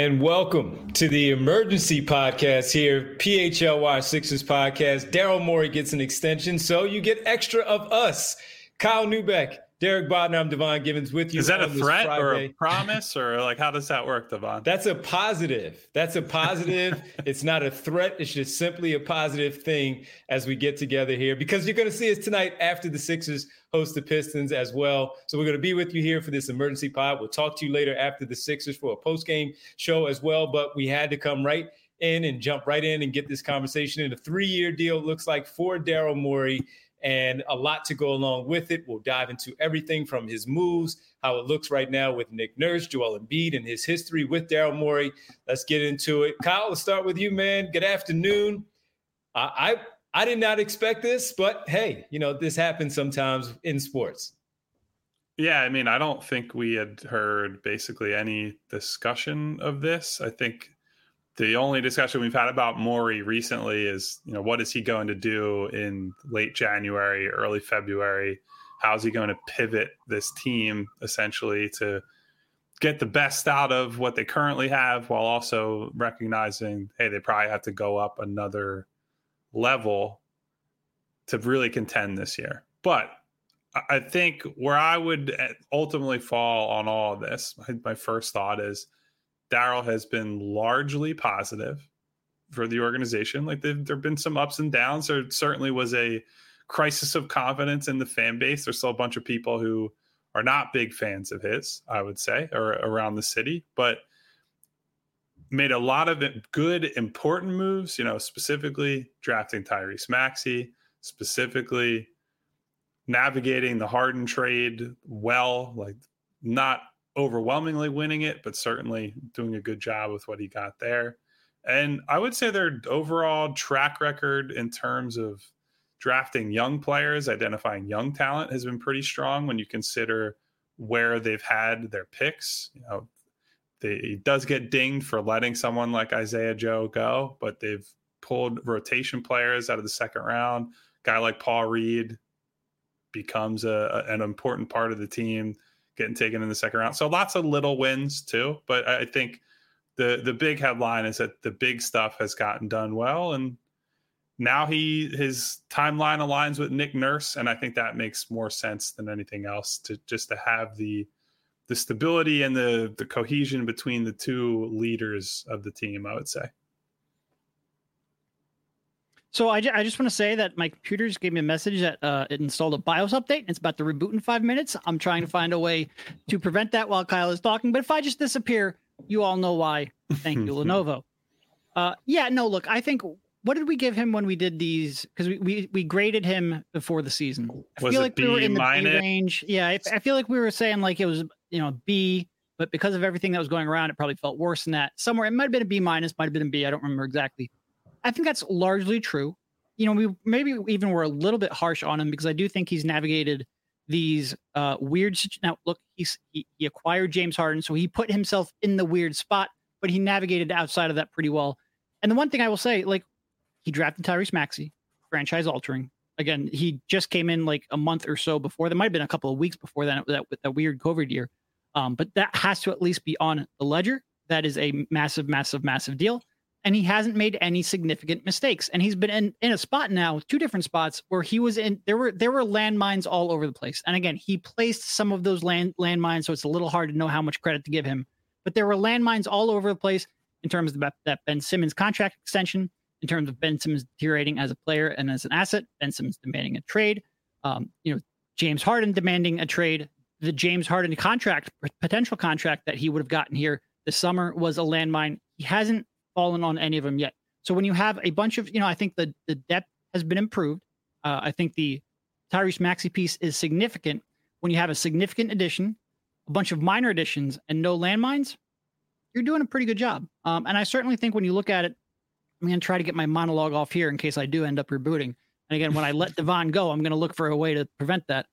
And welcome to the emergency podcast here, PHLY Sixers podcast. Daryl Morey gets an extension, so you get extra of us. Kyle Neubeck, Derek Bodner, I'm Devon Givens with you. Is that a threat or a promise, or like how does that work, Devon? That's a positive. It's not a threat. It's just simply a positive thing as we get together here, because you're going to see us tonight after the Sixers host the Pistons as well. So we're going to be with you here for this emergency pod. We'll talk to you later after the Sixers for a post-game show as well. But we had to come right in and jump right in and get this conversation in. A 3-year deal, looks like, for Daryl Morey, and a lot to go along with it. We'll dive into everything from his moves, how it looks right now with Nick Nurse, Joel Embiid, and his history with Daryl Morey. Let's get into it. Kyle, let's start with you, man. Good afternoon. I did not expect this, but hey, this happens sometimes in sports. Yeah, I mean, I don't think we had heard basically any discussion of this. I think the only discussion we've had about Morey recently is, what is he going to do in late January, early February? How's he going to pivot this team essentially to get the best out of what they currently have, while also recognizing, hey, they probably have to go up another level to really contend this year. But I think where I would ultimately fall on all of this, my first thought is Daryl has been largely positive for the organization. Like there have been some ups and downs. There certainly was a crisis of confidence in the fan base. There's still a bunch of people who are not big fans of his, I would say, or around the city, but made a lot of good, important moves, specifically drafting Tyrese Maxey, specifically navigating the Harden trade well, like not overwhelmingly winning it, but certainly doing a good job with what he got there. And I would say their overall track record in terms of drafting young players, identifying young talent, has been pretty strong when you consider where they've had their picks. He does get dinged for letting someone like Isaiah Joe go, but they've pulled rotation players out of the second round. Guy like Paul Reed becomes an important part of the team, getting taken in the second round. So lots of little wins too. But I think the big headline is that the big stuff has gotten done well. And now his timeline aligns with Nick Nurse. And I think that makes more sense than anything else, to have the stability and the cohesion between the two leaders of the team, I would say. So I just want to say that my computer just gave me a message that it installed a BIOS update, and it's about to reboot in 5 minutes. I'm trying to find a way to prevent that while Kyle is talking. But if I just disappear, you all know why. Thank you, Lenovo. Look, I think, what did we give him when we did these? Because we graded him before the season. I feel like we were in the B range. Yeah, I feel like we were saying like it was B, but because of everything that was going around, it probably felt worse than that. Somewhere it might have been a B minus, might have been a B. I don't remember exactly. I think that's largely true. We maybe even were a little bit harsh on him, because I do think he's navigated these weird. Now, look, he acquired James Harden, so he put himself in the weird spot, but he navigated outside of that pretty well. And the one thing I will say, like, he drafted Tyrese Maxey, franchise altering. Again, he just came in like a month or so before. There might have been a couple of weeks before that with that weird COVID year. But that has to at least be on the ledger. That is a massive, massive, massive deal. And he hasn't made any significant mistakes. And he's been in a spot now, 2 different spots, where he was in. There were landmines all over the place. And again, he placed some of those landmines, so it's a little hard to know how much credit to give him. But there were landmines all over the place in terms of that Ben Simmons contract extension, in terms of Ben Simmons deteriorating as a player and as an asset, Ben Simmons demanding a trade, James Harden demanding a trade. The James Harden potential contract that he would have gotten here this summer was a landmine. He hasn't fallen on any of them yet. So when you have a bunch of, I think the depth has been improved. I think the Tyrese Maxey piece is significant. When you have a significant addition, a bunch of minor additions, and no landmines, you're doing a pretty good job. And I certainly think when you look at it, I'm going to try to get my monologue off here in case I do end up rebooting. And again, when I let Devon go, I'm going to look for a way to prevent that.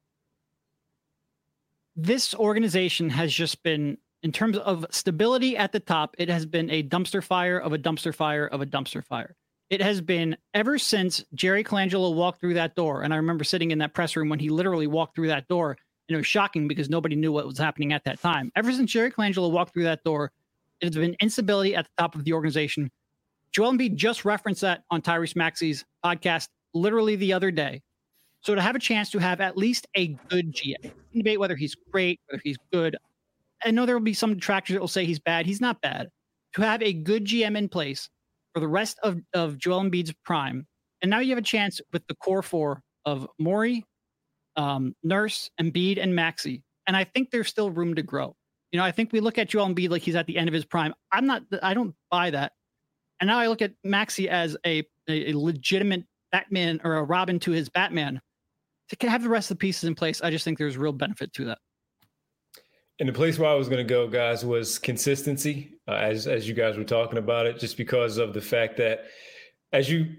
This organization has just been, in terms of stability at the top, it has been a dumpster fire of a dumpster fire of a dumpster fire. It has been ever since Jerry Colangelo walked through that door. And I remember sitting in that press room when he literally walked through that door, and it was shocking because nobody knew what was happening at that time. Ever since Jerry Colangelo walked through that door, It has been instability at the top of the organization. Joel Embiid just referenced that on Tyrese Maxey's podcast literally the other day. So to have a chance to have at least a good GM, debate whether he's great, whether he's good. I know there will be some detractors that will say he's bad. He's not bad. To have a good GM in place for the rest of Joel Embiid's prime. And now you have a chance with the core four of Morey, Nurse, Embiid, and Maxey. And I think there's still room to grow. You know, I think we look at Joel Embiid like he's at the end of his prime. I don't buy that. And now I look at Maxey as a legitimate Batman or a Robin to his Batman. To have the rest of the pieces in place, I just think there's real benefit to that. And the place where I was going to go, guys, was consistency, as you guys were talking about it, just because of the fact that, as you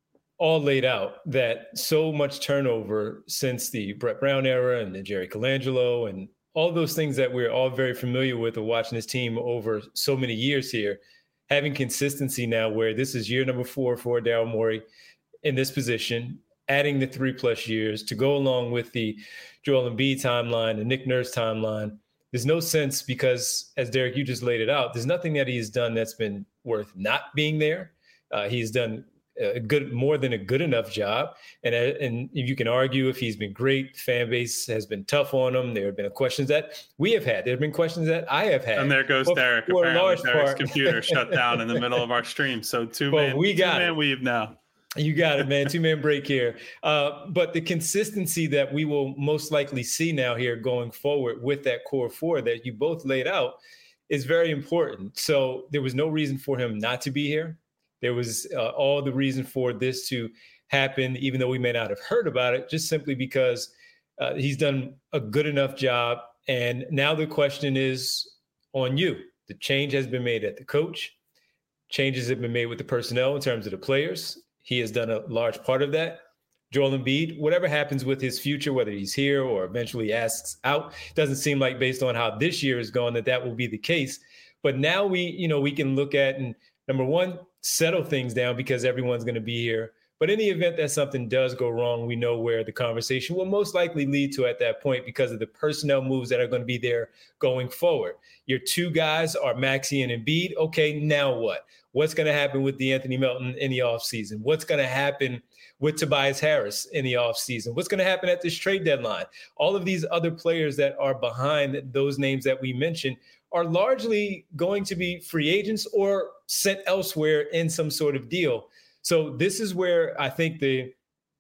all laid out, that so much turnover since the Brett Brown era and the Jerry Colangelo and all those things that we're all very familiar with of watching this team over so many years here, having consistency now where this is year number 4 for Daryl Morey in this position, adding the 3+ years to go along with the Joel Embiid timeline, the Nick Nurse timeline. There's no sense because, as Derek, you just laid it out, there's nothing that he's done that's been worth not being there. He's done more than a good enough job. And you can argue if he's been great, fan base has been tough on him. There have been questions that we have had. There have been questions that I have had. And there goes Derek. Apparently Derek's computer shut down in the middle of our stream. So two-man weave now. You got it, man. 2-man break here. But the consistency that we will most likely see now here going forward with that core four that you both laid out is very important. So there was no reason for him not to be here. There was all the reason for this to happen, even though we may not have heard about it, just simply because he's done a good enough job. And now the question is on you. The change has been made at the coach. Changes have been made with the personnel in terms of the players. He has done a large part of that. Joel Embiid, whatever happens with his future, whether he's here or eventually asks out, doesn't seem like based on how this year is going that will be the case. But now we can look at, and number one, settle things down because everyone's going to be here. But in the event that something does go wrong, we know where the conversation will most likely lead to at that point because of the personnel moves that are going to be there going forward. Your two guys are Maxey and Embiid. Okay, now what? What's going to happen with DeAnthony Melton in the offseason? What's going to happen with Tobias Harris in the offseason? What's going to happen at this trade deadline? All of these other players that are behind those names that we mentioned are largely going to be free agents or sent elsewhere in some sort of deal. So this is where I think the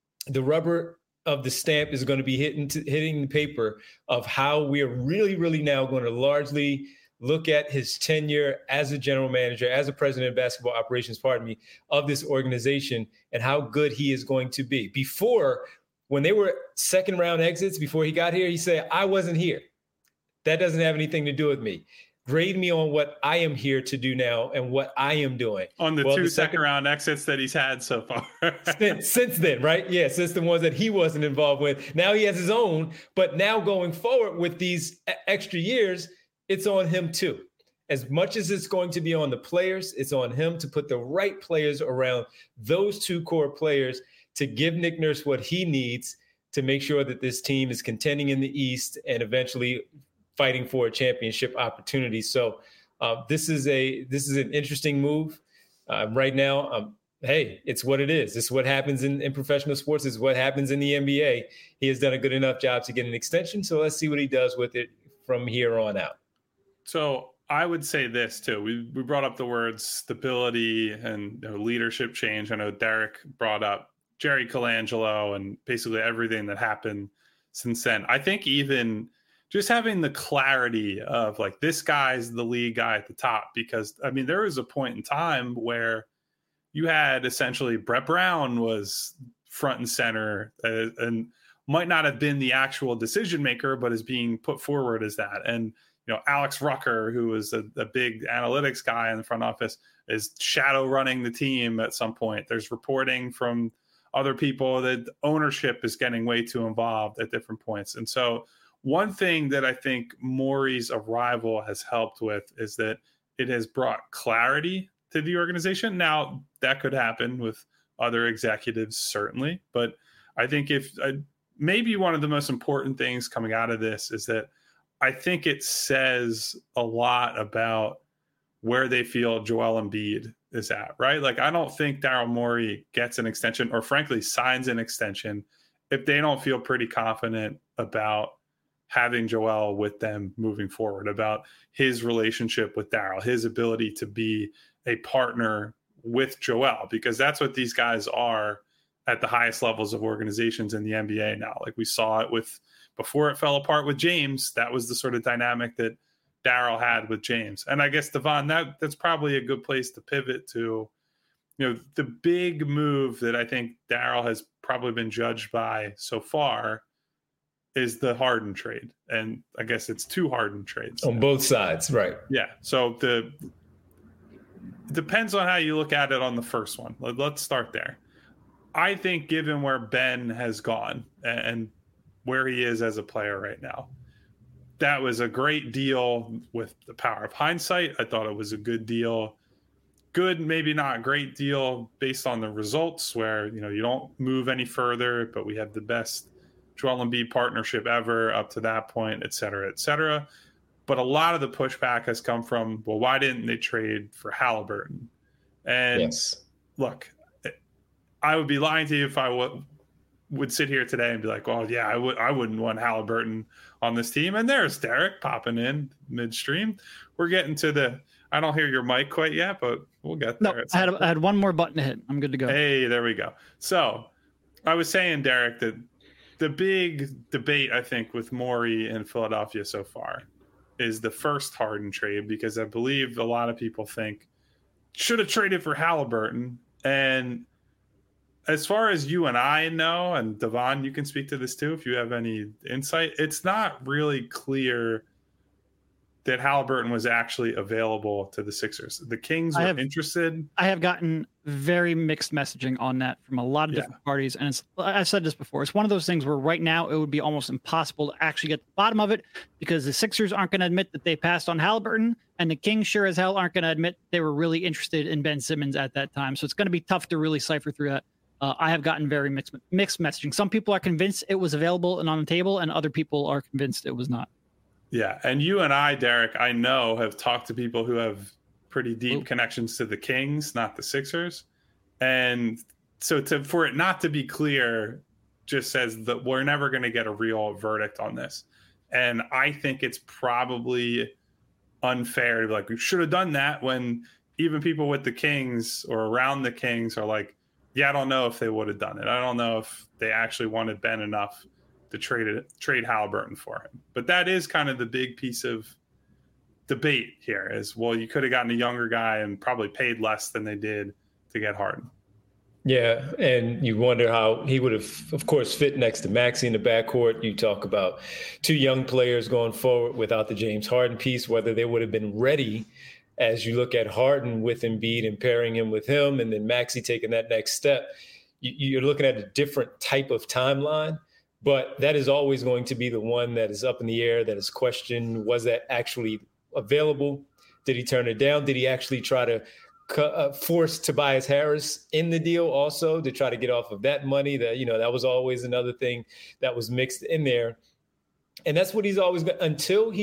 rubber of the stamp is going to be hitting the paper of how we are really, really now going to largely look at his tenure as a general manager, as a president of basketball operations, of this organization and how good he is going to be. Before, when they were second round exits, before he got here, he said, I wasn't here. That doesn't have anything to do with me. Grade me on what I am here to do now and what I am doing. On the second round exits that he's had so far. since then, right? Yeah, since the ones that he wasn't involved with. Now he has his own, but now going forward with these extra years, it's on him too. As much as it's going to be on the players, it's on him to put the right players around those two core players to give Nick Nurse what he needs to make sure that this team is contending in the East and eventually fighting for a championship opportunity. So this is an interesting move right now. Hey, it's what it is. It's what happens in professional sports. It's what happens in the NBA. He has done a good enough job to get an extension. So let's see what he does with it from here on out. So I would say this too. We brought up the words stability and leadership change. I know Derek brought up Jerry Colangelo and basically everything that happened since then. I think even just having the clarity of like, this guy's the lead guy at the top, because I mean, there was a point in time where you had essentially Brett Brown was front and center and might not have been the actual decision maker, but is being put forward as that. And, Alex Rucker, who was a big analytics guy in the front office, is shadow running the team at some point. There's reporting from other people that ownership is getting way too involved at different points. And so one thing that I think Morey's arrival has helped with is that it has brought clarity to the organization. Now, that could happen with other executives, certainly. But I think maybe one of the most important things coming out of this is that I think it says a lot about where they feel Joel Embiid is at, right? Like, I don't think Daryl Morey gets an extension or frankly signs an extension if they don't feel pretty confident about having Joel with them moving forward, about his relationship with Daryl, his ability to be a partner with Joel, because that's what these guys are at the highest levels of organizations in the NBA now. Like, we saw it with, before it fell apart with James, that was the sort of dynamic that Daryl had with James. And I guess, Devon, that's probably a good place to pivot to, the big move that I think Daryl has probably been judged by so far is the Harden trade. And I guess it's 2 Harden trades. On both sides, right. Yeah. So it depends on how you look at it on the first one. Let's start there. I think given where Ben has gone and where he is as a player right now, that was a great deal with the power of hindsight. I thought it was a good deal. Good, maybe not great deal based on the results where, you don't move any further, but we have the best Joel Embiid partnership ever up to that point, et cetera, et cetera. But a lot of the pushback has come from, well, why didn't they trade for Halliburton? And yes. Look, I would be lying to you if I would sit here today and be like, well, yeah, I wouldn't want Halliburton on this team. And there's Derek popping in midstream. We're getting to I don't hear your mic quite yet, but we'll get there. No, I had one more button to hit. I'm good to go. Hey, there we go. So I was saying, Derek, that the big debate, I think, with Morey in Philadelphia so far is the first Harden trade, because I believe a lot of people think should have traded for Halliburton. And as far as you and I know, and Devon, you can speak to this too if you have any insight, it's not really clear that Halliburton was actually available to the Sixers. The Kings were interested. I have gotten very mixed messaging on that from a lot of different parties. And I said this before, it's one of those things where right now it would be almost impossible to actually get to the bottom of it, because the Sixers aren't going to admit that they passed on Halliburton, and the Kings sure as hell aren't going to admit they were really interested in Ben Simmons at that time. So it's going to be tough to really cipher through that. I have gotten very mixed messaging. Some people are convinced it was available and on the table, and other people are convinced it was not. Yeah. And you and I, Derek, I know, have talked to people who have pretty deep connections to the Kings, not the Sixers. And so for it not to be clear just says that we're never going to get a real verdict on this. And I think it's probably unfair to be like, we should have done that, when even people with the Kings or around the Kings are like, yeah, I don't know if they would have done it. I don't know if they actually wanted Ben enough to trade Halliburton for him. But that is kind of the big piece of debate here is, well, you could have gotten a younger guy and probably paid less than they did to get Harden. Yeah, and you wonder how he would have, of course, fit next to Maxey in the backcourt. You talk about 2 young players going forward without the James Harden piece, whether they would have been ready as you look at Harden with Embiid and pairing him with him, and then Maxey taking that next step. You're looking at a different type of timeline. But that is always going to be the one that is up in the air, that is questioned. Was that actually available? Did he turn it down? Did he actually try to force Tobias Harris in the deal also to try to get off of that money? That was always another thing that was mixed in there. And that's what he's always been until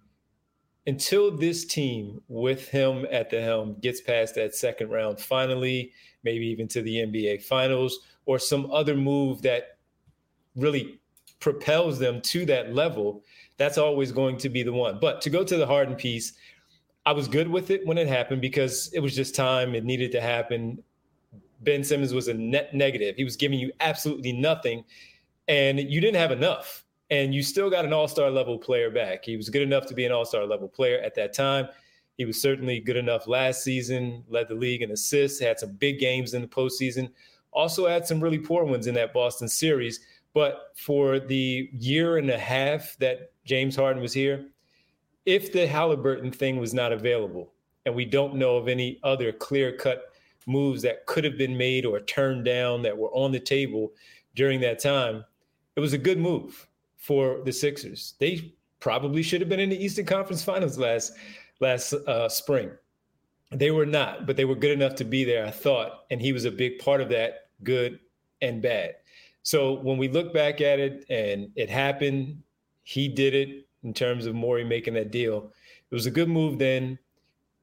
this team with him at the helm gets past that second round finally, maybe even to the NBA Finals, or some other move that really propels them to that level. That's always going to be the one. But to go to the Harden piece, I was good with it when it happened because it was just time. It needed to happen. Ben Simmons was a net negative. He was giving you absolutely nothing, and you didn't have enough. And you still got an all-star level player back. He was good enough to be an all-star level player at that time. He was certainly good enough last season, led the league in assists, had some big games in the postseason, also had some really poor ones in that Boston series. But for the year and a half that James Harden was here, if the Halliburton thing was not available, and we don't know of any other clear-cut moves that could have been made or turned down that were on the table during that time, it was a good move for the Sixers. They probably should have been in the Eastern Conference Finals last spring. They were not, but they were good enough to be there, I thought, and he was a big part of that, good and bad. So when we look back at it and it happened, he did it in terms of Morey making that deal. It was a good move then.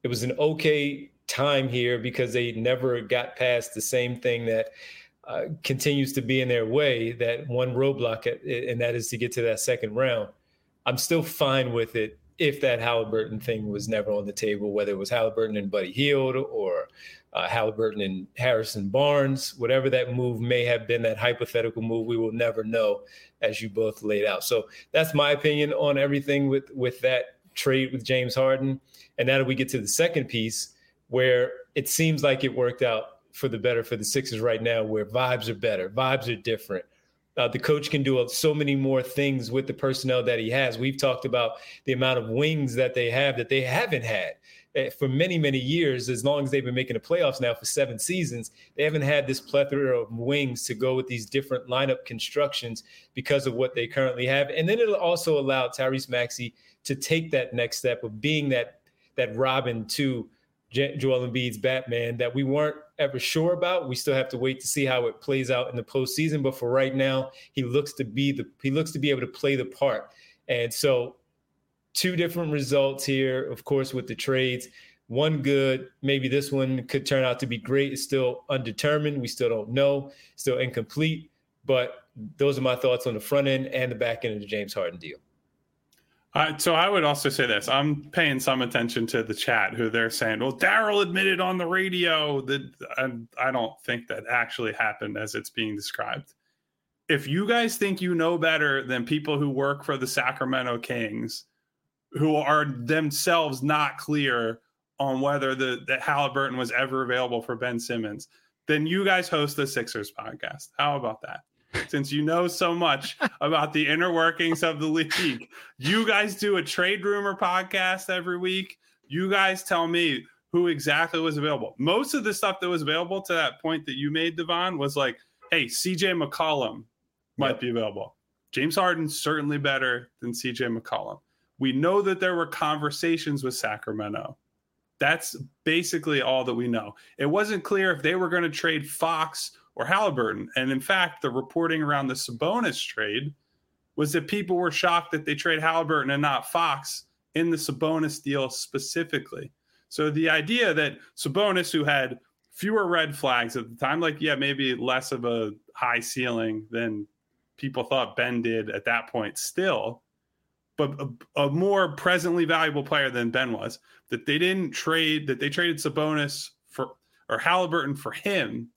It was an okay time here because they never got past the same thing that continues to be in their way, that one roadblock, and that is to get to that second round. I'm still fine with it if that Halliburton thing was never on the table, whether it was Halliburton and Buddy Hield or Halliburton and Harrison Barnes, whatever that move may have been, that hypothetical move, we will never know, as you both laid out. So that's my opinion on everything with that trade with James Harden. And now that we get to the second piece, where it seems like it worked out for the better for the Sixers right now, where vibes are better, vibes are different. The coach can do so many more things with the personnel that he has. We've talked about the amount of wings that they have that they haven't had for many, many years. As long as they've been making the playoffs now for 7 seasons, they haven't had this plethora of wings to go with these different lineup constructions because of what they currently have. And then it'll also allow Tyrese Maxey to take that next step of being that Robin to Joel Embiid's Batman that we weren't ever sure about. We still have to wait to see how it plays out in the postseason. But for right now, he looks to be able to play the part. And so 2 different results here, of course, with the trades. One good, maybe this one could turn out to be great. It's still undetermined. We still don't know, still incomplete. But those are my thoughts on the front end and the back end of the James Harden deal. So I would also say this. I'm paying some attention to the chat who they're saying, well, Daryl admitted on the radio that I don't think that actually happened as it's being described. If you guys think you know better than people who work for the Sacramento Kings, who are themselves not clear on whether that Halliburton was ever available for Ben Simmons, then you guys host the Sixers podcast. How about that? Since you know so much about the inner workings of the league, you guys do a trade rumor podcast every week. You guys tell me who exactly was available. Most of the stuff that was available to that point that you made, Devon, was like, hey, CJ McCollum might be available. James Harden's certainly better than CJ McCollum. We know that there were conversations with Sacramento. That's basically all that we know. It wasn't clear if they were going to trade Fox or Halliburton. And in fact, the reporting around the Sabonis trade was that people were shocked that they trade Halliburton and not Fox in the Sabonis deal specifically. So the idea that Sabonis, who had fewer red flags at the time, like, yeah, maybe less of a high ceiling than people thought Ben did at that point still, but a more presently valuable player than Ben was, that they didn't trade, that they traded Sabonis for, or Halliburton for him.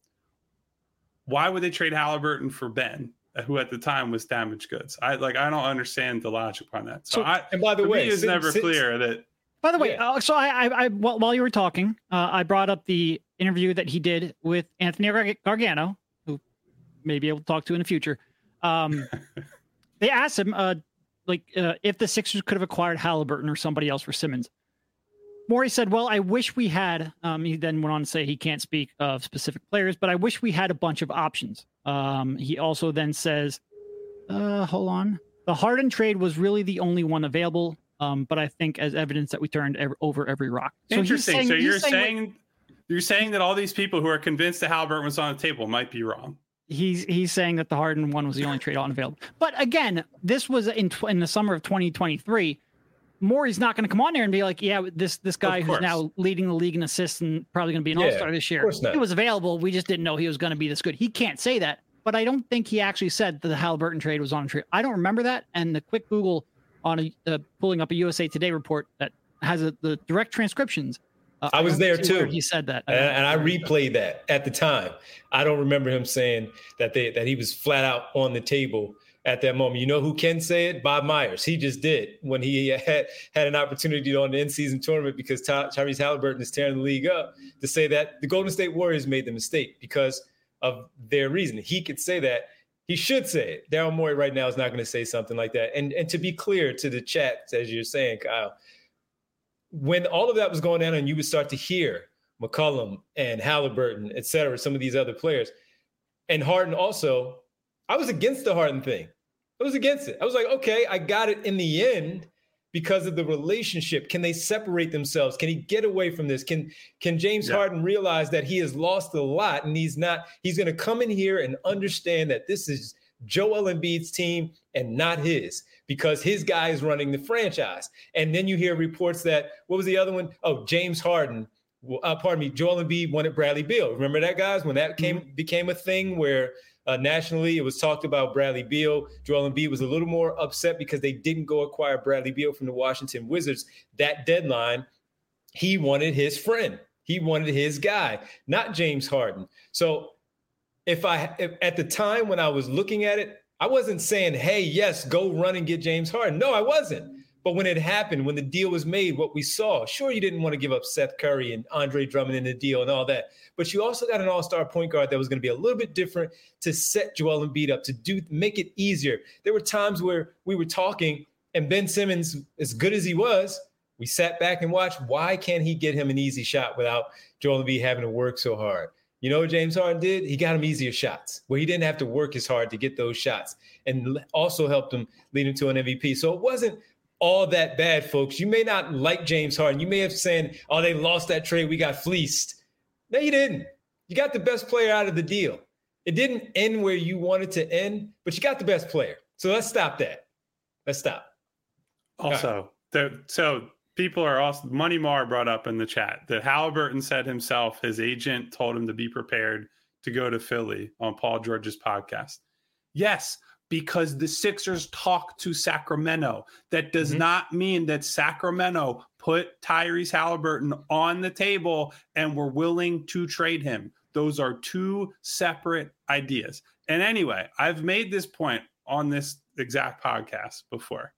Why would they trade Halliburton for Ben, who at the time was damaged goods? I don't understand the logic behind that. So and by the way, it's never clear that. By the way, so I while you were talking, I brought up the interview that he did with Anthony Gargano, who may be able to talk to in the future. They asked him, if the Sixers could have acquired Halliburton or somebody else for Simmons. Morey said, well, I wish we had, he then went on to say he can't speak of specific players, but I wish we had a bunch of options. He also then says, hold on. The Harden trade was really the only one available, but I think as evidence that we turned over every rock. So interesting. So you're saying that all these people who are convinced that Halliburton was on the table might be wrong. He's saying that the Harden one was the only trade unavailable. But again, this was in the summer of 2023. Morey's not going to come on there and be like, yeah, this guy who's now leading the league in assists and probably going to be an all-star this year. He was available. We just didn't know he was going to be this good. He can't say that. But I don't think he actually said that the Halliburton trade was on a trade. I don't remember that. And the quick Google on pulling up a USA Today report that has the direct transcriptions. I was there too. He said that, and I replayed that at the time. I don't remember him saying that he was flat out on the table at that moment. You know who can say it? Bob Myers. He just did when he had an opportunity on the in-season tournament because Tyrese Halliburton is tearing the league up, to say that the Golden State Warriors made the mistake because of their reason. He could say that. He should say it. Daryl Morey right now is not going to say something like that. And to be clear to the chat, as you're saying, Kyle, when all of that was going on and you would start to hear McCollum and Halliburton, et cetera, some of these other players, and Harden also, I was against the Harden thing. I was against it. I was like, okay, I got it in the end because of the relationship. Can they separate themselves? Can he get away from this? Can James Harden realize that he has lost a lot and he's going to come in here and understand that this is Joel Embiid's team and not his, because his guy is running the franchise. And then you hear reports that, what was the other one? Oh, James Harden. Joel Embiid wanted Bradley Beal. Remember that, guys? When that became a thing where nationally it was talked about Bradley Beal. Joel Embiid was a little more upset because they didn't go acquire Bradley Beal from the Washington Wizards. That deadline, he wanted his friend. He wanted his guy, not James Harden. So if at the time when I was looking at it, I wasn't saying, hey, yes, go run and get James Harden. No, I wasn't. But when it happened, when the deal was made, what we saw, sure, you didn't want to give up Seth Curry and Andre Drummond in the deal and all that. But you also got an all-star point guard that was going to be a little bit different to set Joel Embiid up, to make it easier. There were times where we were talking and Ben Simmons, as good as he was, we sat back and watched, why can't he get him an easy shot without Joel Embiid having to work so hard? You know what James Harden did? He got him easier shots where he didn't have to work as hard to get those shots, and also helped him lead him to an MVP. So it wasn't all that bad, folks. You may not like James Harden. You may have said, oh, they lost that trade, we got fleeced. No, you didn't. You got the best player out of the deal. It didn't end where you wanted to end, but you got the best player. So let's stop that. Let's stop. Also, so people are also, Money Mar brought up in the chat that Halliburton said himself, his agent told him to be prepared to go to Philly on Paul George's podcast. Yes, because the Sixers talked to Sacramento. That does not mean that Sacramento put Tyrese Halliburton on the table and were willing to trade him. Those are two separate ideas. And anyway, I've made this point on this exact podcast before.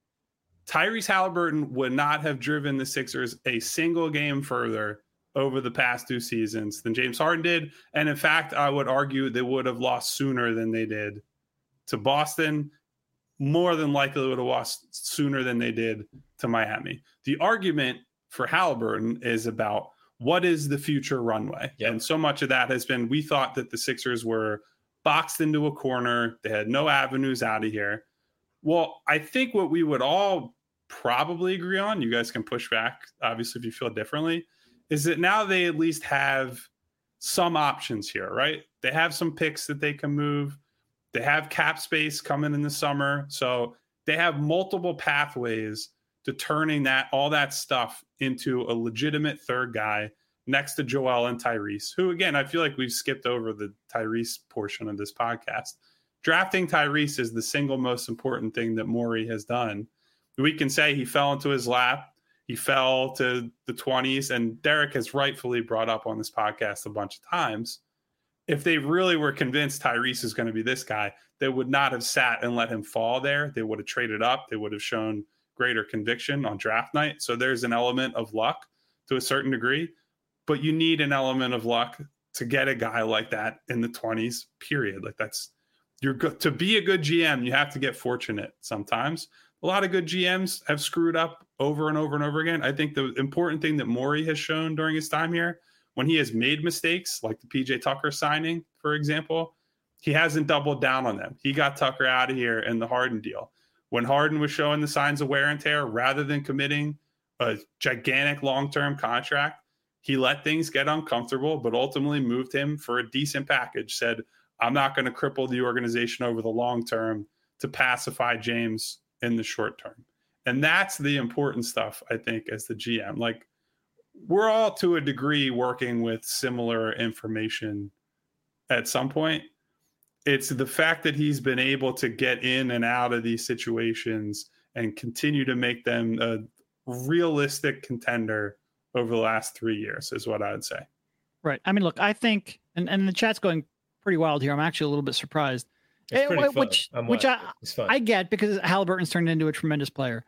Tyrese Halliburton would not have driven the Sixers a single game further over the past 2 seasons than James Harden did. And in fact, I would argue they would have lost sooner than they did to Boston. More than likely would have lost sooner than they did to Miami. The argument for Halliburton is about what is the future runway. Yep. And so much of that has been, we thought that the Sixers were boxed into a corner. They had no avenues out of here. Well, I think what we would all probably agree on, you guys can push back, obviously, if you feel differently, is that now they at least have some options here, right? They have some picks that they can move. They have cap space coming in the summer. So they have multiple pathways to turning all that stuff into a legitimate third guy next to Joel and Tyrese, who, again, I feel like we've skipped over the Tyrese portion of this podcast. Drafting Tyrese is the single most important thing that Morey has done. We can say he fell into his lap. He fell to the 20s, and Derek has rightfully brought up on this podcast a bunch of times. If they really were convinced Tyrese is going to be this guy, they would not have sat and let him fall there. They would have traded up. They would have shown greater conviction on draft night. So there's an element of luck to a certain degree, but you need an element of luck to get a guy like that in the 20s, period. Like you're good to be a good GM. You have to get fortunate sometimes. A lot of good GMs have screwed up over and over and over again. I think the important thing that Morey has shown during his time here, when he has made mistakes, like the PJ Tucker signing, for example, he hasn't doubled down on them. He got Tucker out of here in the Harden deal. When Harden was showing the signs of wear and tear, rather than committing a gigantic long-term contract, he let things get uncomfortable, but ultimately moved him for a decent package, said, I'm not going to cripple the organization over the long term to pacify James in the short term. And that's the important stuff, I think, as the GM. Like, we're all to a degree working with similar information at some point. It's the fact that he's been able to get in and out of these situations and continue to make them a realistic contender over the last 3 years is what I would say. Right. I mean, look, I think, and the chat's going pretty wild here. I'm actually a little bit surprised. It's pretty fun. Which I get, because Halliburton's turned into a tremendous player.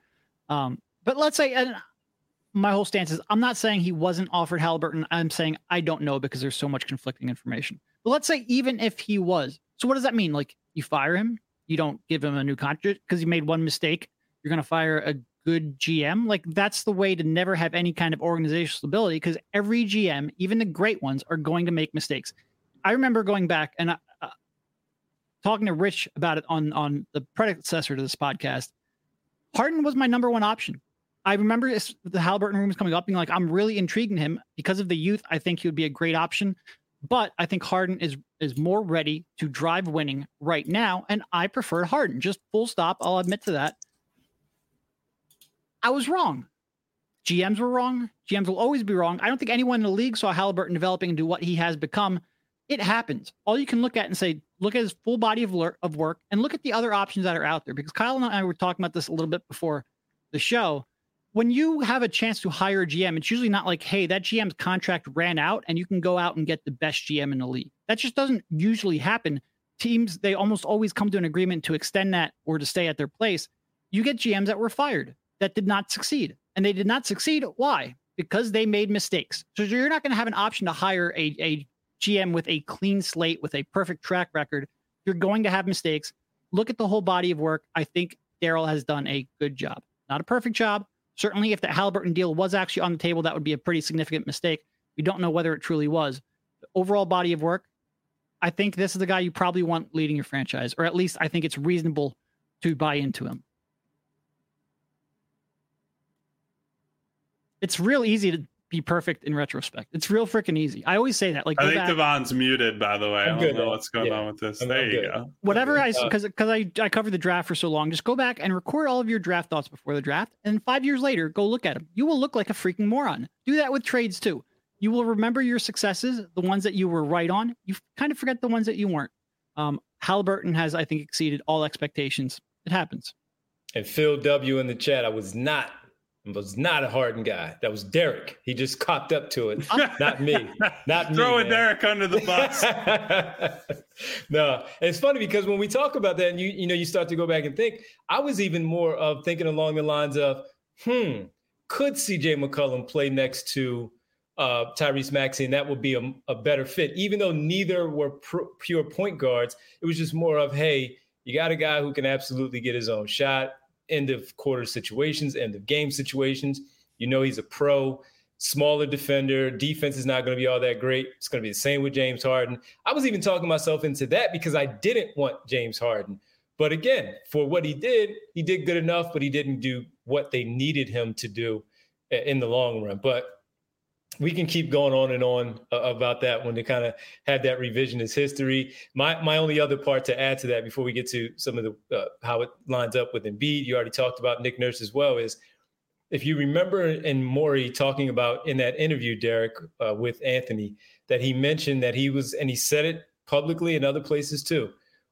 But let's say, and my whole stance is, I'm not saying he wasn't offered Halliburton. I'm saying I don't know, because there's so much conflicting information. But let's say even if he was, so what does that mean? Like, you fire him, you don't give him a new contract because he made one mistake. You're going to fire a good GM. Like, that's the way to never have any kind of organizational stability, because every GM, even the great ones, are going to make mistakes. I remember going back and talking to Rich about it on the predecessor to this podcast. Harden was my number one option. I remember the Halliburton rumors coming up, being like, I'm really intrigued in him because of the youth. I think he would be a great option. But I think Harden is more ready to drive winning right now, and I prefer Harden. Just full stop. I'll admit to that. I was wrong. GMs were wrong. GMs will always be wrong. I don't think anyone in the league saw Halliburton developing into what he has become. It happens. All you can look at and say, look at his full body of work and look at the other options that are out there. Because Kyle and I were talking about this a little bit before the show. When you have a chance to hire a GM, it's usually not like, hey, that GM's contract ran out and you can go out and get the best GM in the league. That just doesn't usually happen. Teams, they almost always come to an agreement to extend that or to stay at their place. You get GMs that were fired that did not succeed. And they did not succeed. Why? Because they made mistakes. So you're not going to have an option to hire a GM with a clean slate, with a perfect track record. You're going to have mistakes. Look at the whole body of work. I think Daryl has done a good job. Not a perfect job. Certainly, if the Halliburton deal was actually on the table, that would be a pretty significant mistake. We don't know whether it truly was. The overall body of work, I think this is the guy you probably want leading your franchise, or at least I think it's reasonable to buy into him. It's real easy to be perfect in retrospect. It's real freaking easy. I always say that. Like, I think Devon's muted, by the way. I don't know what's going on with this. There you go. Whatever because I covered the draft for so long, just go back and record all of your draft thoughts before the draft, and 5 years later, go look at them. You will look like a freaking moron. Do that with trades too. You will remember your successes, the ones that you were right on. You kind of forget the ones that you weren't. Halliburton has, I think, exceeded all expectations. It happens. And Phil W in the chat, I was not a Harden guy. That was Derek. He just copped up to it. Not me. Not me. Throwing Derek under the bus. No, it's funny because when we talk about that and you start to go back and think, I was even more of thinking along the lines of, could CJ McCollum play next to Tyrese Maxey, and that would be a better fit, even though neither were pure point guards. It was just more of, hey, you got a guy who can absolutely get his own shot, end of quarter situations, end of game situations. He's a pro, smaller defender. Defense is not going to be all that great. It's going to be the same with James Harden. I was even talking myself into that because I didn't want James Harden. But again, for what he did good enough, but he didn't do what they needed him to do in the long run. But we can keep going on and on about that when they kind of had that revisionist history. My only other part to add to that before we get to some of the how it lines up with Embiid, you already talked about Nick Nurse as well, is if you remember in Morey talking about in that interview, Derek, with Anthony, that he mentioned that he was, and he said it publicly in other places too,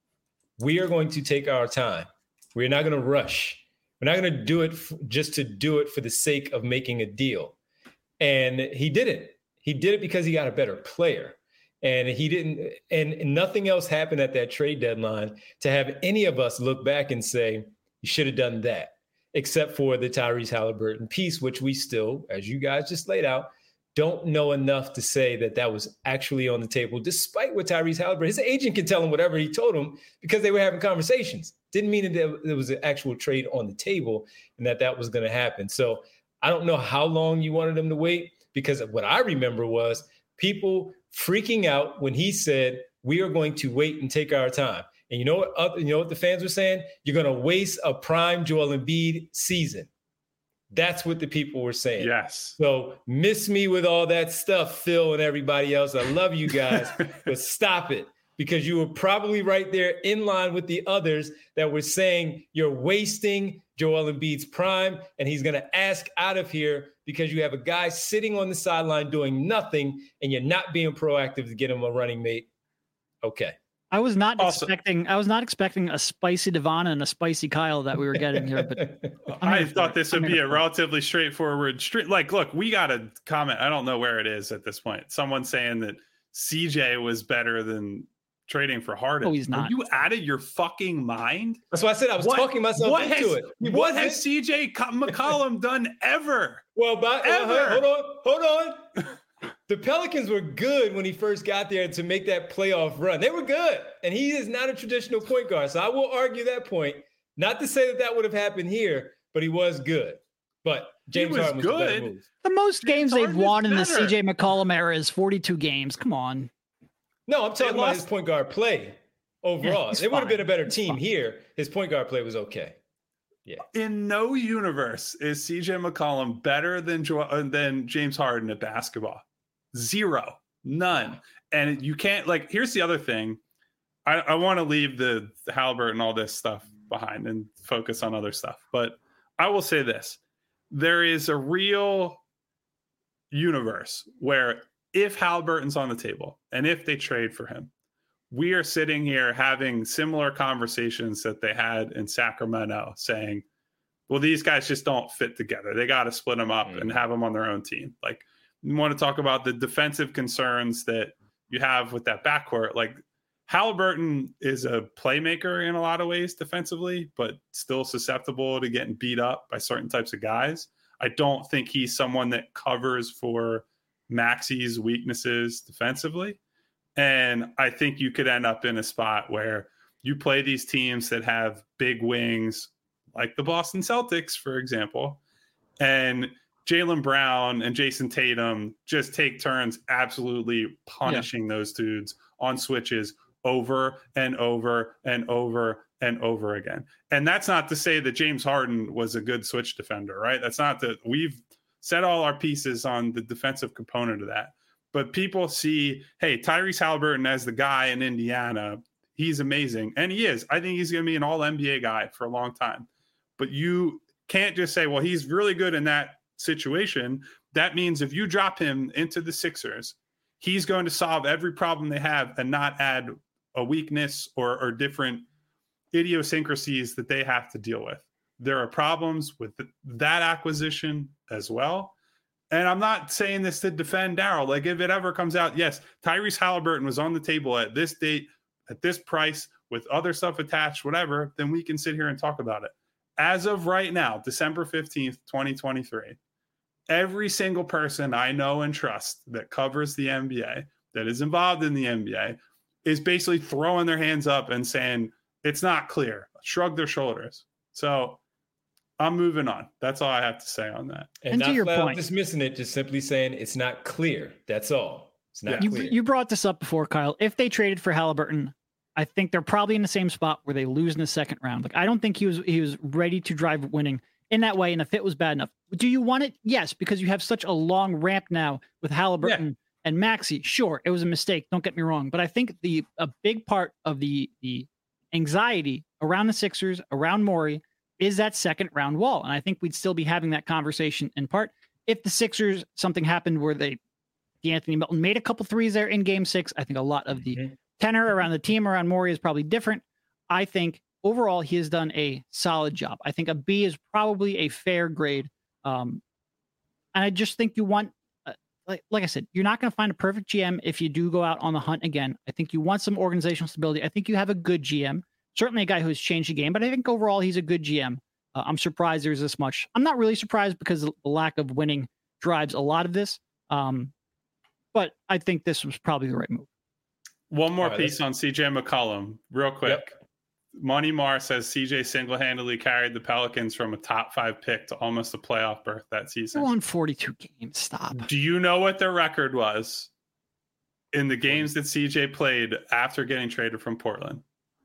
we are going to take our time. We're not going to rush. We're not going to do it just to do it for the sake of making a deal. And he didn't. He did it because he got a better player. And he didn't. And nothing else happened at that trade deadline to have any of us look back and say, you should have done that, except for the Tyrese Halliburton piece, which we still, as you guys just laid out, don't know enough to say that was actually on the table, despite what Tyrese Halliburton, his agent can tell him whatever he told him because they were having conversations. Didn't mean that there was an actual trade on the table and that was going to happen. So I don't know how long you wanted him to wait, because what I remember was people freaking out when he said, we are going to wait and take our time. And you know what the fans were saying? You're going to waste a prime Joel Embiid season. That's what the people were saying. Yes. So miss me with all that stuff, Phil and everybody else. I love you guys, but stop it, because you were probably right there in line with the others that were saying you're wasting Joel Embiid's prime, and he's going to ask out of here because you have a guy sitting on the sideline doing nothing, and you're not being proactive to get him a running mate. Okay. I was not expecting a spicy Devon and a spicy Kyle that we were getting here, but I thought this would be a relatively straightforward look, we got a comment. I don't know where it is at this point. Someone saying that CJ was better than trading for Harden. Oh, he's not. Are you out of your fucking mind? That's why I said I was talking myself into it. What has CJ McCollum done ever? Well, hold on. The Pelicans were good when he first got there to make that playoff run. They were good. And he is not a traditional point guard. So I will argue that point. Not to say that would have happened here, but he was good. But James Harden was good. The better move. The most games they've won in the CJ McCollum era is 42 games. Come on. No, I'm talking about his point guard play overall. It would have been a better team here. His point guard play was okay. Yeah. In no universe is CJ McCollum better than James Harden at basketball. Zero. None. And you can't, like, here's the other thing. I want to leave the Haliburton and all this stuff behind and focus on other stuff. But I will say this. There is a real universe where if Haliburton's on the table and if they trade for him, we are sitting here having similar conversations that they had in Sacramento saying, well, these guys just don't fit together. They got to split them up and have them on their own team. Like, you want to talk about the defensive concerns that you have with that backcourt. Like, Haliburton is a playmaker in a lot of ways defensively, but still susceptible to getting beat up by certain types of guys. I don't think he's someone that covers for Maxey's weaknesses defensively. And I think you could end up in a spot where you play these teams that have big wings, like the Boston Celtics, for example, and Jaylen Brown and Jason Tatum just take turns absolutely punishing those dudes on switches over and over and over and over again. And that's not to say that James Harden was a good switch defender, right? That's not that. We've set all our pieces on the defensive component of that. But people see, hey, Tyrese Haliburton as the guy in Indiana, he's amazing. And he is. I think he's going to be an all-NBA guy for a long time. But you can't just say, well, he's really good in that situation. That means if you drop him into the Sixers, he's going to solve every problem they have and not add a weakness or different idiosyncrasies that they have to deal with. There are problems with that acquisition as well. And I'm not saying this to defend Daryl. Like, if it ever comes out, yes, Tyrese Haliburton was on the table at this date, at this price, with other stuff attached, whatever, then we can sit here and talk about it. As of right now, December 15th, 2023, every single person I know and trust that covers the NBA, that is involved in the NBA, is basically throwing their hands up and saying, it's not clear, shrug their shoulders. So I'm moving on. That's all I have to say on that. And not to your point, dismissing it, just simply saying it's not clear. That's all. It's not clear. You brought this up before, Kyle. If they traded for Haliburton, I think they're probably in the same spot where they lose in the second round. Like, I don't think he was ready to drive winning in that way, and the fit was bad enough. Do you want it? Yes, because you have such a long ramp now with Haliburton and Maxey. Sure, it was a mistake. Don't get me wrong, but I think a big part of the anxiety around the Sixers, around Morey, is that second round wall. And I think we'd still be having that conversation in part if the Sixers, something happened where Anthony Melton made a couple threes there in game 6. I think a lot of the tenor around the team around Morey is probably different. I think overall he has done a solid job. I think a B is probably a fair grade. And I just think you want, like I said, you're not going to find a perfect GM if you do go out on the hunt again. I think you want some organizational stability. I think you have a good GM. Certainly a guy who's changed the game, but I think overall he's a good GM. I'm surprised there's this much. I'm not really surprised because the lack of winning drives a lot of this. But I think this was probably the right move. One more piece on CJ McCollum, real quick. Yep. Money Mar says CJ single-handedly carried the Pelicans from a top 5 pick to almost a playoff berth that season. They won 42 games. Stop. Do you know what their record was in the games that CJ played after getting traded from Portland?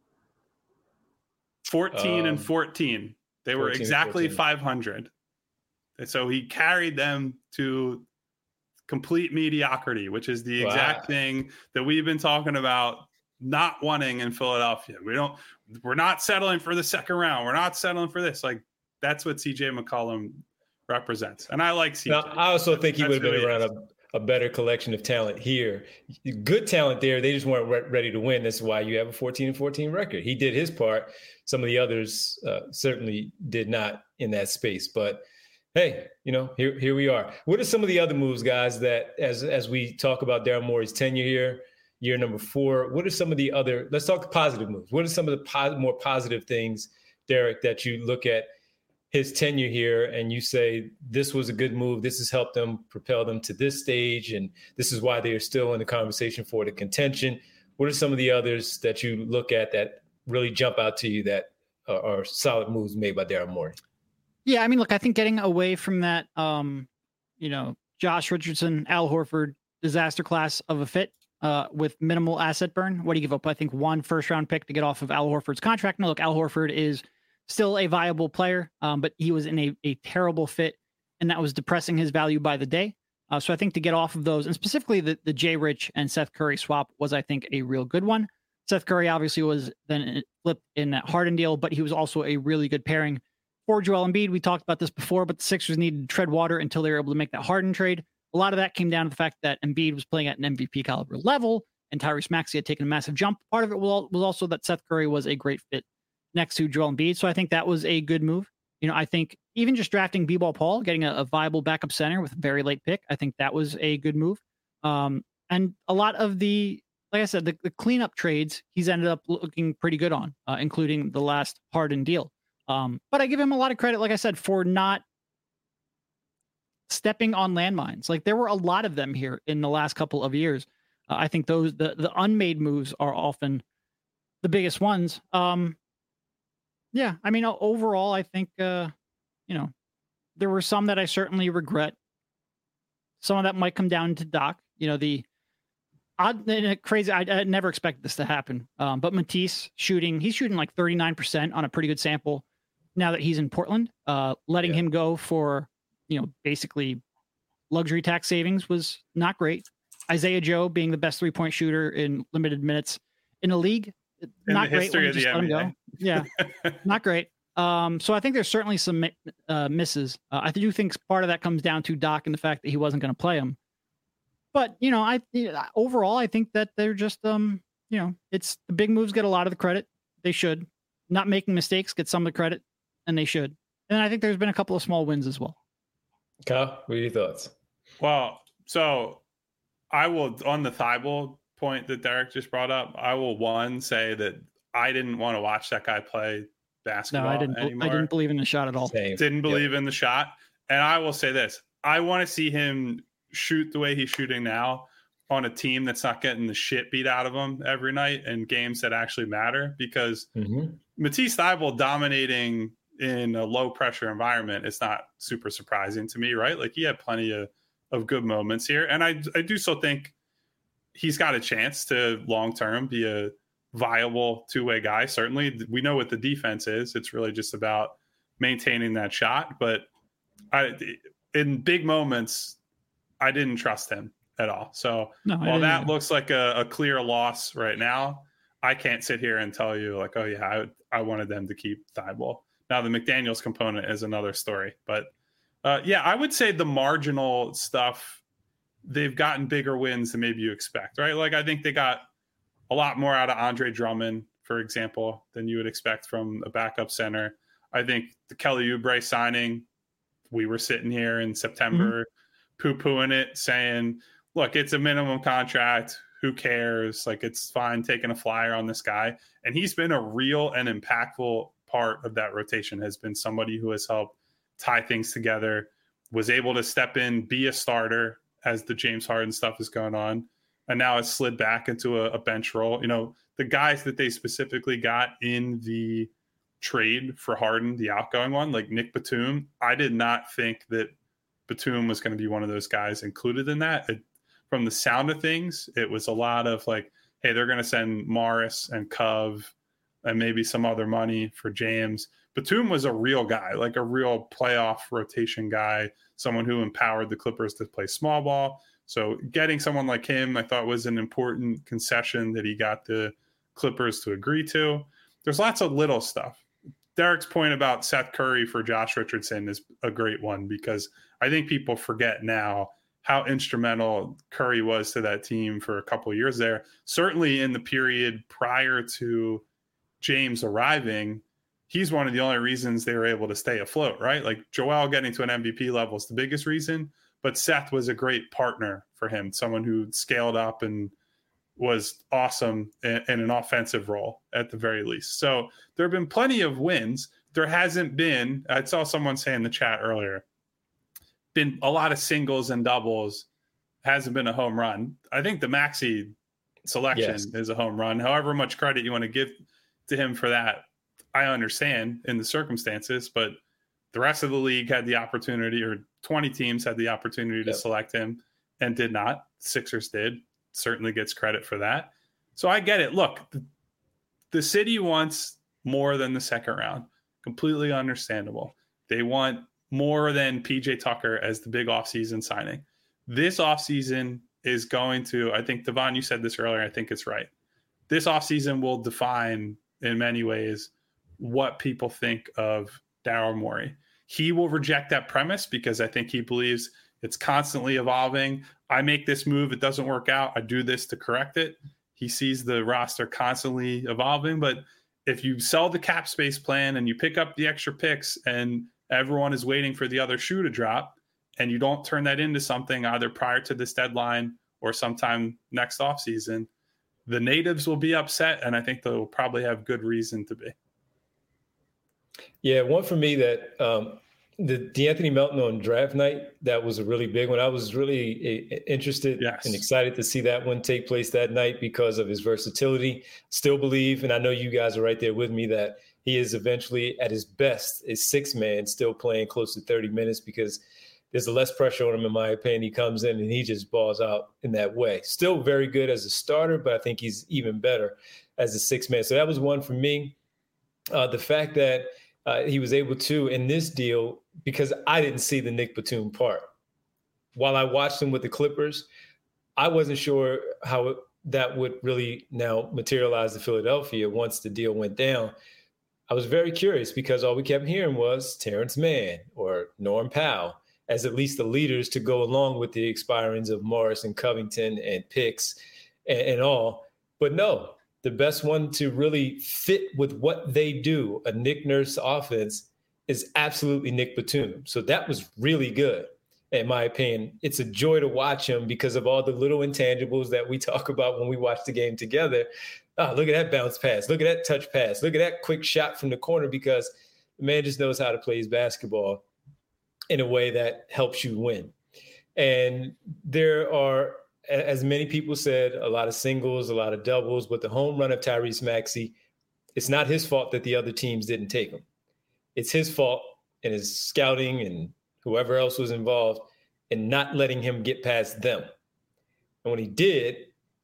14 and 14. They were exactly 500. And so he carried them to complete mediocrity, which is the exact thing that we've been talking about not wanting in Philadelphia. We're not settling for the second round. We're not settling for this. Like, that's what CJ McCollum represents. And I like CJ. Now, I also think he would have been around a better collection of talent here. Good talent there. They just weren't ready to win. That's why you have a 14-14 record. He did his part. Some of the others certainly did not in that space. But hey, here we are. What are some of the other moves, guys, that as we talk about Daryl Morey's tenure here, year number 4, what are some of the other, let's talk positive moves. What are some of the more positive things, Derek, that you look at his tenure here and you say, this was a good move. This has helped them propel them to this stage. And this is why they are still in the conversation for the contention. What are some of the others that you look at that really jump out to you that are solid moves made by Daryl Morey? Yeah, I mean, look, I think getting away from that, Josh Richardson, Al Horford disaster class of a fit with minimal asset burn. What do you give up? I think 1 first-round pick to get off of Al Horford's contract. Now, look, Al Horford is still a viable player, but he was in a terrible fit, and that was depressing his value by the day. So I think to get off of those, and specifically the Jay Rich and Seth Curry swap was, I think, a real good one. Seth Curry obviously was then flipped in that Harden deal, but he was also a really good pairing for Joel Embiid. We talked about this before, but the Sixers needed to tread water until they were able to make that Harden trade. A lot of that came down to the fact that Embiid was playing at an MVP caliber level, and Tyrese Maxey had taken a massive jump. Part of it was also that Seth Curry was a great fit next to Joel Embiid. So I think that was a good move. I think even just drafting B-Ball Paul, getting a viable backup center with a very late pick, I think that was a good move. And a lot of like I said, the cleanup trades, he's ended up looking pretty good on, including the last Harden deal. But I give him a lot of credit, like I said, for not stepping on landmines. Like, there were a lot of them here in the last couple of years. I think the unmade moves are often the biggest ones. Yeah, I mean, overall, I think, there were some that I certainly regret. Some of that might come down to Doc. The odd and crazy. I never expected this to happen. But Matisse he's shooting like 39% on a pretty good sample now that he's in Portland. Letting him go for, basically luxury tax savings was not great. Isaiah Joe being the best 3-point shooter in limited minutes in the league. Not great when you just let him go. Yeah, not great. So I think there's certainly some misses. I do think part of that comes down to Doc and the fact that he wasn't going to play him. But, overall, I think that they're just, it's the big moves get a lot of the credit. They should. Not making mistakes get some of the credit, and they should. And I think there's been a couple of small wins as well. Kyle, what are your thoughts? Well, so I will, on the Thibault point that Derek just brought up, I will say that I didn't want to watch that guy play basketball anymore. I didn't believe in the shot at all. Same. Didn't believe in the shot. And I will say this, I want to see him shoot the way he's shooting now on a team that's not getting the shit beat out of him every night and games that actually matter, because Matisse Thybulle dominating in a low pressure environment, it's not super surprising to me, right? Like, he had plenty of good moments here. And I do still think he's got a chance to long-term be a viable two-way guy. Certainly we know what the defense is. It's really just about maintaining that shot. But in big moments, I didn't trust him at all. So while that looks like a clear loss right now, I can't sit here and tell you like, oh yeah, I wanted them to keep Thybulle. Now the McDaniels component is another story, but yeah, I would say the marginal stuff, they've gotten bigger wins than maybe you expect, right? Like, I think they got a lot more out of Andre Drummond, for example, than you would expect from a backup center. I think the Kelly Oubre signing, we were sitting here in September poo-pooing it, saying, look, it's a minimum contract. Who cares? Like, it's fine taking a flyer on this guy. And he's been a real and impactful part of that rotation, has been somebody who has helped tie things together, was able to step in, be a starter as the James Harden stuff is going on, and now has slid back into a bench role. The guys that they specifically got in the trade for Harden, the outgoing one, like Nick Batum, I did not think that Batum was going to be one of those guys included in that. From the sound of things, it was a lot of like, hey, they're going to send Morris and Cove and maybe some other money for James. Batum was a real guy, like a real playoff rotation guy, someone who empowered the Clippers to play small ball. So getting someone like him, I thought, was an important concession that he got the Clippers to agree to. There's lots of little stuff. Derek's point about Seth Curry for Josh Richardson is a great one, because I think people forget now how instrumental Curry was to that team for a couple of years there. Certainly in the period prior to James arriving, he's one of the only reasons they were able to stay afloat, right? Like, Joel getting to an MVP level is the biggest reason, but Seth was a great partner for him, someone who scaled up and was awesome in an offensive role at the very least. So there have been plenty of wins. There hasn't been, I saw someone say in the chat earlier, been a lot of singles and doubles, hasn't been a home run. I think the Maxey selection is a home run. However much credit you want to give to him for that, I understand in the circumstances, but the rest of the league had the opportunity, or 20 teams had the opportunity to select him and did not. Sixers did. Certainly gets credit for that. So I get it. Look, the city wants more than the second round. Completely understandable. They want more than PJ Tucker as the big offseason signing. this offseason is going to, I think, Devon, you said this earlier, I think it's right. This offseason will define in many ways what people think of Daryl Morey. He will reject that premise because I think he believes it's constantly evolving. I make this move, it doesn't work out, I do this to correct it. He sees the roster constantly evolving, but if you sell the cap space plan and you pick up the extra picks and everyone is waiting for the other shoe to drop, and you don't turn that into something either prior to this deadline or sometime next offseason, the natives will be upset, and I think they'll probably have good reason to be. Yeah, one for me that the De'Anthony Melton on draft night, that was a really big one. I was really interested and excited to see that one take place that night because of his versatility. Still believe, and I know you guys are right there with me, that he is eventually at his best, a six-man, still playing close to 30 minutes because there's less pressure on him, in my opinion. He comes in and he just balls out in that way. Still very good as a starter, but I think he's even better as a six-man. So that was one for me. The fact that he was able to, in this deal, because I didn't see the Nick Batum part. While I watched him with the Clippers, I wasn't sure how that would really now materialize to Philadelphia once the deal went down. I was very curious because all we kept hearing was Terrence Mann or Norm Powell as at least the leaders to go along with the expirings of Morris and Covington and picks and all. But no, the best one to really fit with what they do, a Nick Nurse offense, is absolutely Nick Batum. So that was really good, in my opinion. It's a joy to watch him because of all the little intangibles that we talk about when we watch the game together. Oh, look at that bounce pass. Look at that touch pass. Look at that quick shot from the corner, because the man just knows how to play his basketball in a way that helps you win. And there are, as many people said, a lot of singles, a lot of doubles, but the home run of Tyrese Maxey, it's not his fault that the other teams didn't take him. It's his fault and his scouting and whoever else was involved in not letting him get past them. And when he did,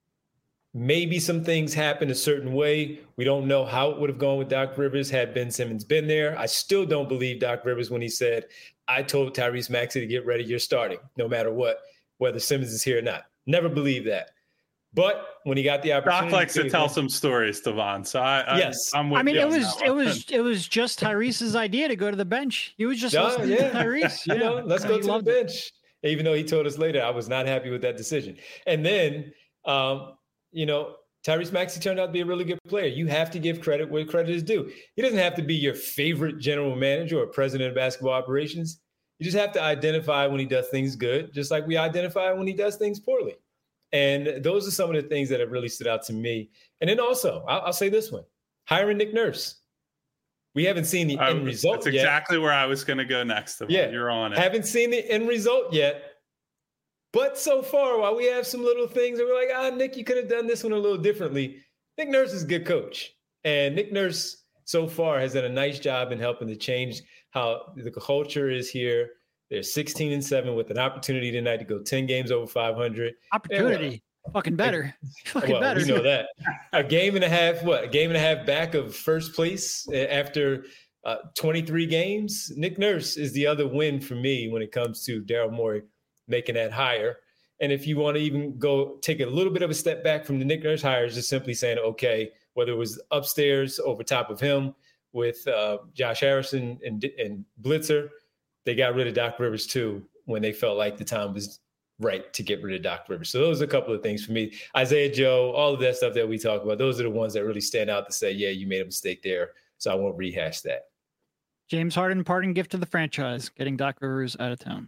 maybe some things happened a certain way. We don't know how it would have gone with Doc Rivers had Ben Simmons been there. I still don't believe Doc Rivers when he said, I told Tyrese Maxey to get ready, you're starting, no matter what, whether Simmons is here or not. Never believed that. But when he got the opportunity, Doc likes to tell some stories, Devon. So I'm with you. It was just Tyrese's idea to go to the bench. He was just listening to Tyrese. Let's go to the bench. Even though he told us later, I was not happy with that decision. And then, Tyrese Maxey turned out to be a really good player. You have to give credit where credit is due. He doesn't have to be your favorite general manager or president of basketball operations. You just have to identify when he does things good, just like we identify when he does things poorly. And those are some of the things that have really stood out to me. And then also, I'll say this one, hiring Nick Nurse. We haven't seen the end result yet. That's exactly where I was going to go next. Yeah, you're on it. Haven't seen the end result yet. But so far, while we have some little things that we're like, Nick, you could have done this one a little differently. Nick Nurse is a good coach. And Nick Nurse so far has done a nice job in helping to change how the culture is here. They're 16-7 with an opportunity tonight to go 10 games over 500. Opportunity. Fucking better. Better. We know that. A game and a half back of first place after 23 games. Nick Nurse is the other win for me when it comes to Daryl Morey making that hire. And if you want to even go take a little bit of a step back from the Nick Nurse hires, just simply saying, okay, whether it was upstairs over top of him with Josh Harrison and Blitzer, they got rid of Doc Rivers too when they felt like the time was right to get rid of Doc Rivers. So those are a couple of things for me. Isaiah Joe, all of that stuff that we talk about, those are the ones that really stand out to say, yeah, you made a mistake there. So I won't rehash that. James Harden, parting gift to the franchise, getting Doc Rivers out of town.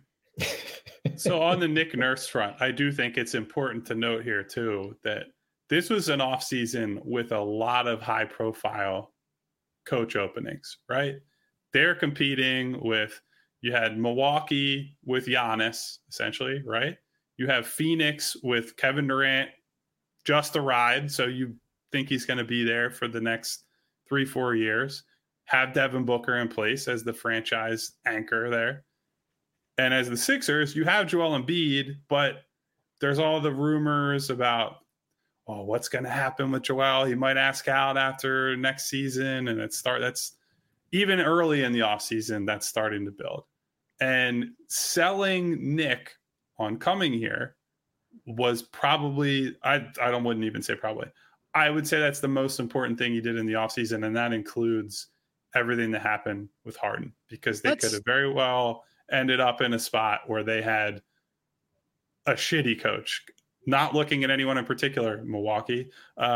So on the Nick Nurse front, I do think it's important to note here too that this was an offseason with a lot of high profile coach openings, right? They're competing with, you had Milwaukee with Giannis, essentially, right? You have Phoenix with Kevin Durant, just a ride. So you think he's going to be there for the next 3-4 years. Have Devin Booker in place as the franchise anchor there. And as the Sixers, you have Joel Embiid, but there's all the rumors about, what's going to happen with Joel? He might ask out after next season. And that's even early in the offseason, that's starting to build. And selling Nick on coming here was probably, wouldn't even say probably. I would say that's the most important thing he did in the offseason, and that includes everything that happened with Harden, because they could have very well ended up in a spot where they had a shitty coach. Not looking at anyone in particular, Milwaukee.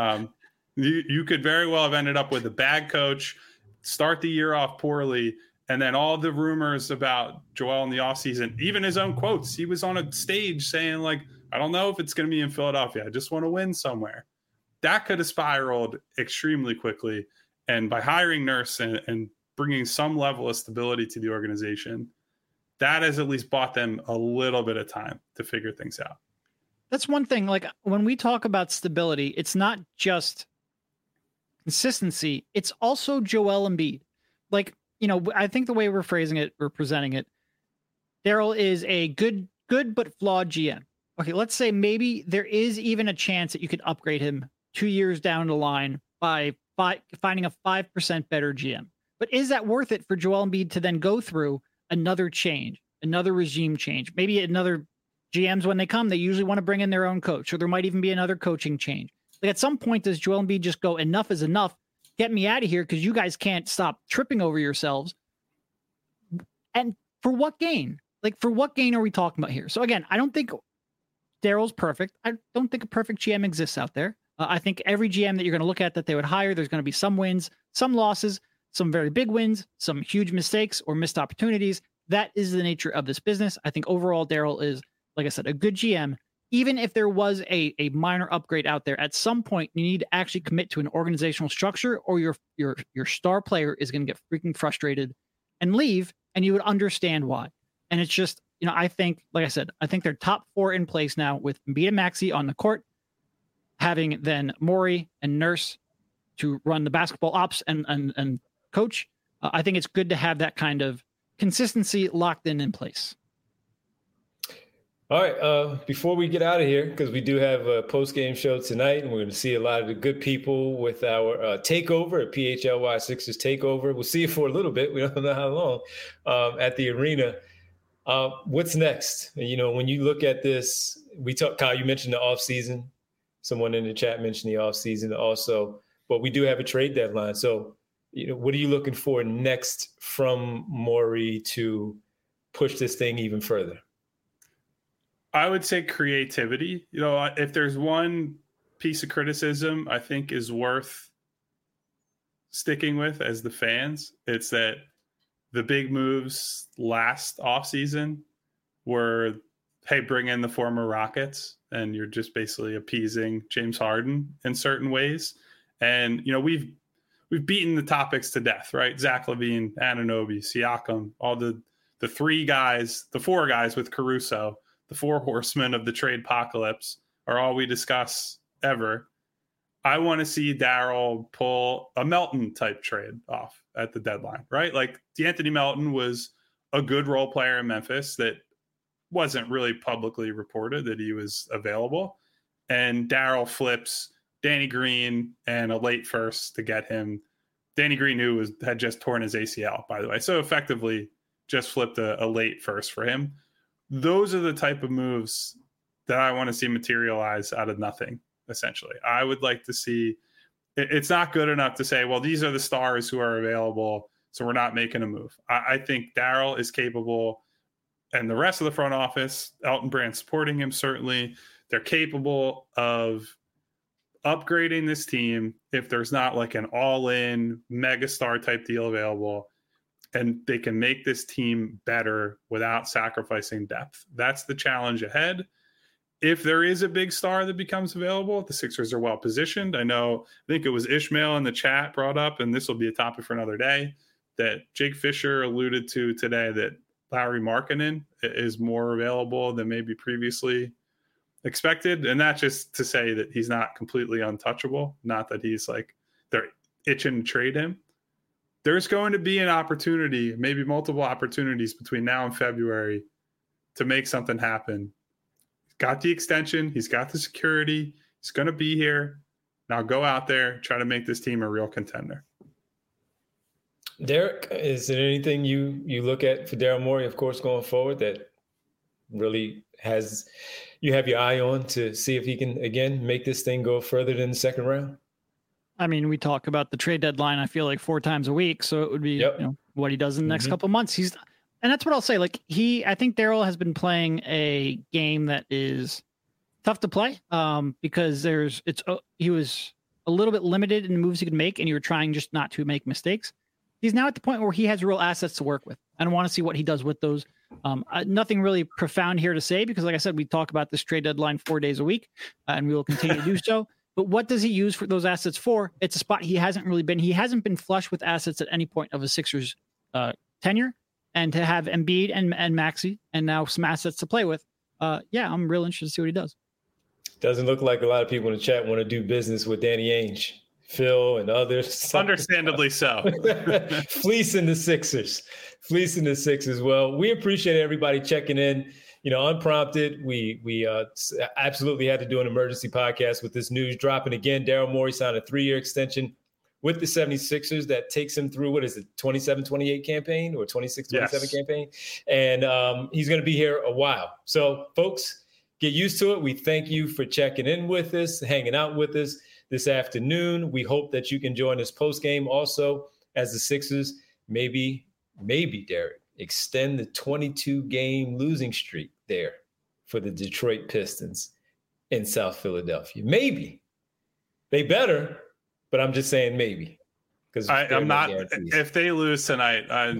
You could very well have ended up with a bad coach, start the year off poorly, and then all the rumors about Joel in the offseason, even his own quotes, he was on a stage saying, like, I don't know if it's going to be in Philadelphia. I just want to win somewhere. That could have spiraled extremely quickly. And by hiring Nurse and bringing some level of stability to the organization, that has at least bought them a little bit of time to figure things out. That's one thing. Like, when we talk about stability, it's not just consistency. It's also Joel Embiid. Like, I think the way we're phrasing it, we're presenting it, Daryl is a good but flawed GM. Okay, let's say maybe there is even a chance that you could upgrade him 2 years down the line by finding a 5% better GM. But is that worth it for Joel Embiid to then go through another change, another regime change? Maybe another GMs, when they come, they usually want to bring in their own coach, or there might even be another coaching change. Like, at some point, does Joel Embiid just go, enough is enough, get me out of here because you guys can't stop tripping over yourselves? And for what gain? Like, for what gain are we talking about here? So again, I don't think Daryl's perfect. I don't think a perfect GM exists out there. I think every GM that you're going to look at that they would hire, there's going to be some wins, some losses, some very big wins, some huge mistakes or missed opportunities. That is the nature of this business. I think overall, Daryl is, like I said, a good GM. Even if there was a minor upgrade out there, at some point you need to actually commit to an organizational structure, or your star player is going to get freaking frustrated and leave, and you would understand why. And it's just, I think, like I said, I think they're top 4 in place now with Embiid and Maxey on the court, having then Morey and Nurse to run the basketball ops and coach. I think it's good to have that kind of consistency locked in place. All right. Before we get out of here, because we do have a post-game show tonight, and we're going to see a lot of the good people with our takeover at PHLY Sixers takeover. We'll see you for a little bit. We don't know how long at the arena. What's next? When you look at this, Kyle, you mentioned the offseason. Someone in the chat mentioned the offseason also, but we do have a trade deadline. So, what are you looking for next from Morey to push this thing even further? I would say creativity. If there's one piece of criticism I think is worth sticking with as the fans, it's that the big moves last offseason were, hey, bring in the former Rockets, and you're just basically appeasing James Harden in certain ways. And, we've beaten the topics to death, right? Zach LaVine, Anunoby, Siakam, all the 4 guys with Caruso, the 4 horsemen of the trade apocalypse, are all we discuss ever. I want to see Daryl pull a Melton type trade off at the deadline, right? Like, D'Anthony Melton was a good role player in Memphis that wasn't really publicly reported that he was available. And Daryl flips Danny Green and a late first to get him. Danny Green, who had just torn his ACL, by the way. So effectively just flipped a late first for him. Those are the type of moves that I want to see materialize out of nothing, essentially. I would like to see, it's not good enough to say, well, these are the stars who are available, so we're not making a move. I think Daryl is capable, and the rest of the front office, Elton Brand supporting him, certainly, they're capable of upgrading this team if there's not like an all-in megastar type deal available, and they can make this team better without sacrificing depth. That's the challenge ahead. If there is a big star that becomes available, the Sixers are well positioned. I think it was Ishmael in the chat brought up, and this will be a topic for another day, that Jake Fisher alluded to today, that Lauri Markkanen is more available than maybe previously expected. And that's just to say that he's not completely untouchable. Not that he's like, they're itching to trade him. There's going to be an opportunity, maybe multiple opportunities between now and February to make something happen. He's got the extension. He's got the security. He's going to be here. Now go out there, try to make this team a real contender. Derek, is there anything you look at for Daryl Morey, of course, going forward that really you have your eye on to see if he can, again, make this thing go further than the second round? I mean, we talk about the trade deadline, I feel like 4 times a week. So it would be what he does in the next couple of months. And that's what I'll say. Like I think Daryl has been playing a game that is tough to play because he was a little bit limited in the moves he could make, and you were trying just not to make mistakes. He's now at the point where he has real assets to work with. I don't want to see what he does with those. Nothing really profound here to say because, like I said, we talk about this trade deadline 4 days a week, and we will continue to do so. But what does he use for those assets for? It's a spot he hasn't really been. He hasn't been flush with assets at any point of a Sixers tenure. And to have Embiid and Maxey and now some assets to play with, I'm real interested to see what he does. Doesn't look like a lot of people in the chat want to do business with Danny Ainge, Phil, and others. Understandably so. Fleecing the Sixers. Well, we appreciate everybody checking in. Unprompted, we absolutely had to do an emergency podcast with this news dropping again. Daryl Morey signed a 3-year extension with the 76ers that takes him through, 27-28 campaign or 26-27 campaign. And he's going to be here a while. So, folks, get used to it. We thank you for checking in with us, hanging out with us this afternoon. We hope that you can join us post-game also as the Sixers maybe, Derek, extend the 22-game losing streak there for the Detroit Pistons in South Philadelphia. Maybe. They better, but I'm just saying maybe. Because I'm not. If they lose tonight, I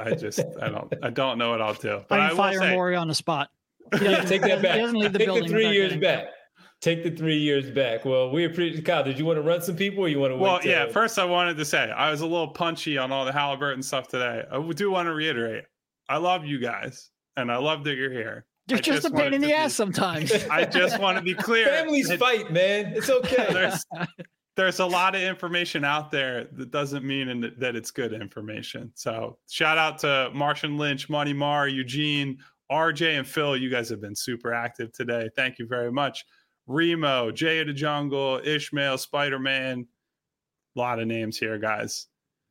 don't know what I'll do. But I will fire Morey on the spot. Take that back. He doesn't leave the building. Take the 3 years back. Take the 3 years back. Well, we appreciate. Kyle, did you want to run some people, or you want to wait? Well, yeah. First, I wanted to say I was a little punchy on all the Halliburton stuff today. I do want to reiterate, I love you guys, and I love that you're here. You're just a pain in the ass sometimes. I just want to be clear. Families fight, man. It's okay. There's a lot of information out there that doesn't mean that it's good information. So shout out to Martian Lynch, Money Mar, Eugene, RJ, and Phil. You guys have been super active today. Thank you very much. Remo, Jay of the Jungle, Ishmael, Spider-Man. A lot of names here, guys.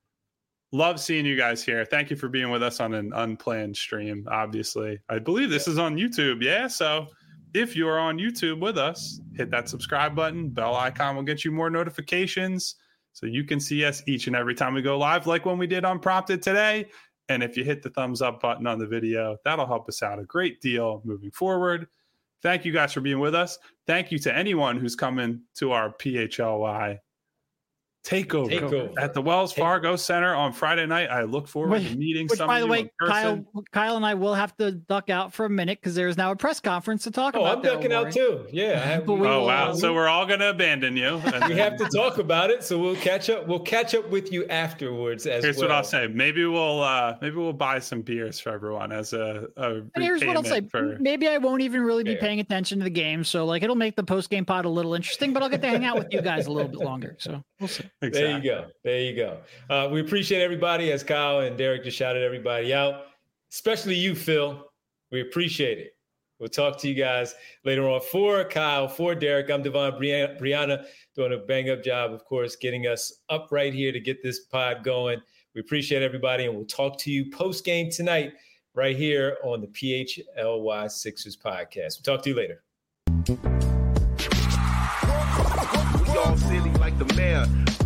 Love seeing you guys here. Thank you for being with us on an unplanned stream, obviously. I believe this is on YouTube. Yeah, so if you're on YouTube with us, hit that subscribe button. Bell icon will get you more notifications so you can see us each and every time we go live, like when we did Unprompted today. And if you hit the thumbs up button on the video, that'll help us out a great deal moving forward. Thank you guys for being with us. Thank you to anyone who's coming to our PHLY takeover at the Wells Fargo Center on Friday night. I look forward to meeting some of you in person. Kyle and I will have to duck out for a minute because there's now a press conference to talk about. I'm ducking out too. Yeah. Wow. So we're all going to abandon you. We have to talk about it. So we'll catch up. We'll catch up with you afterwards. Here's what I'll say. Maybe we'll buy some beers for everyone as a and here's what I'll say. Maybe I won't even really be paying attention to the game. So it'll make the post game pod a little interesting, but I'll get to hang out with you guys a little bit longer. So we'll see. Exactly. There you go. We appreciate everybody, as Kyle and Derek just shouted everybody out, especially you, Phil. We appreciate it. We'll talk to you guys later on. For Kyle, for Derek, I'm Devon Brianna, doing a bang-up job, of course, getting us up right here to get this pod going. We appreciate everybody, and we'll talk to you post-game tonight right here on the PHLY Sixers podcast. We'll talk to you later. We all silly like the mayor.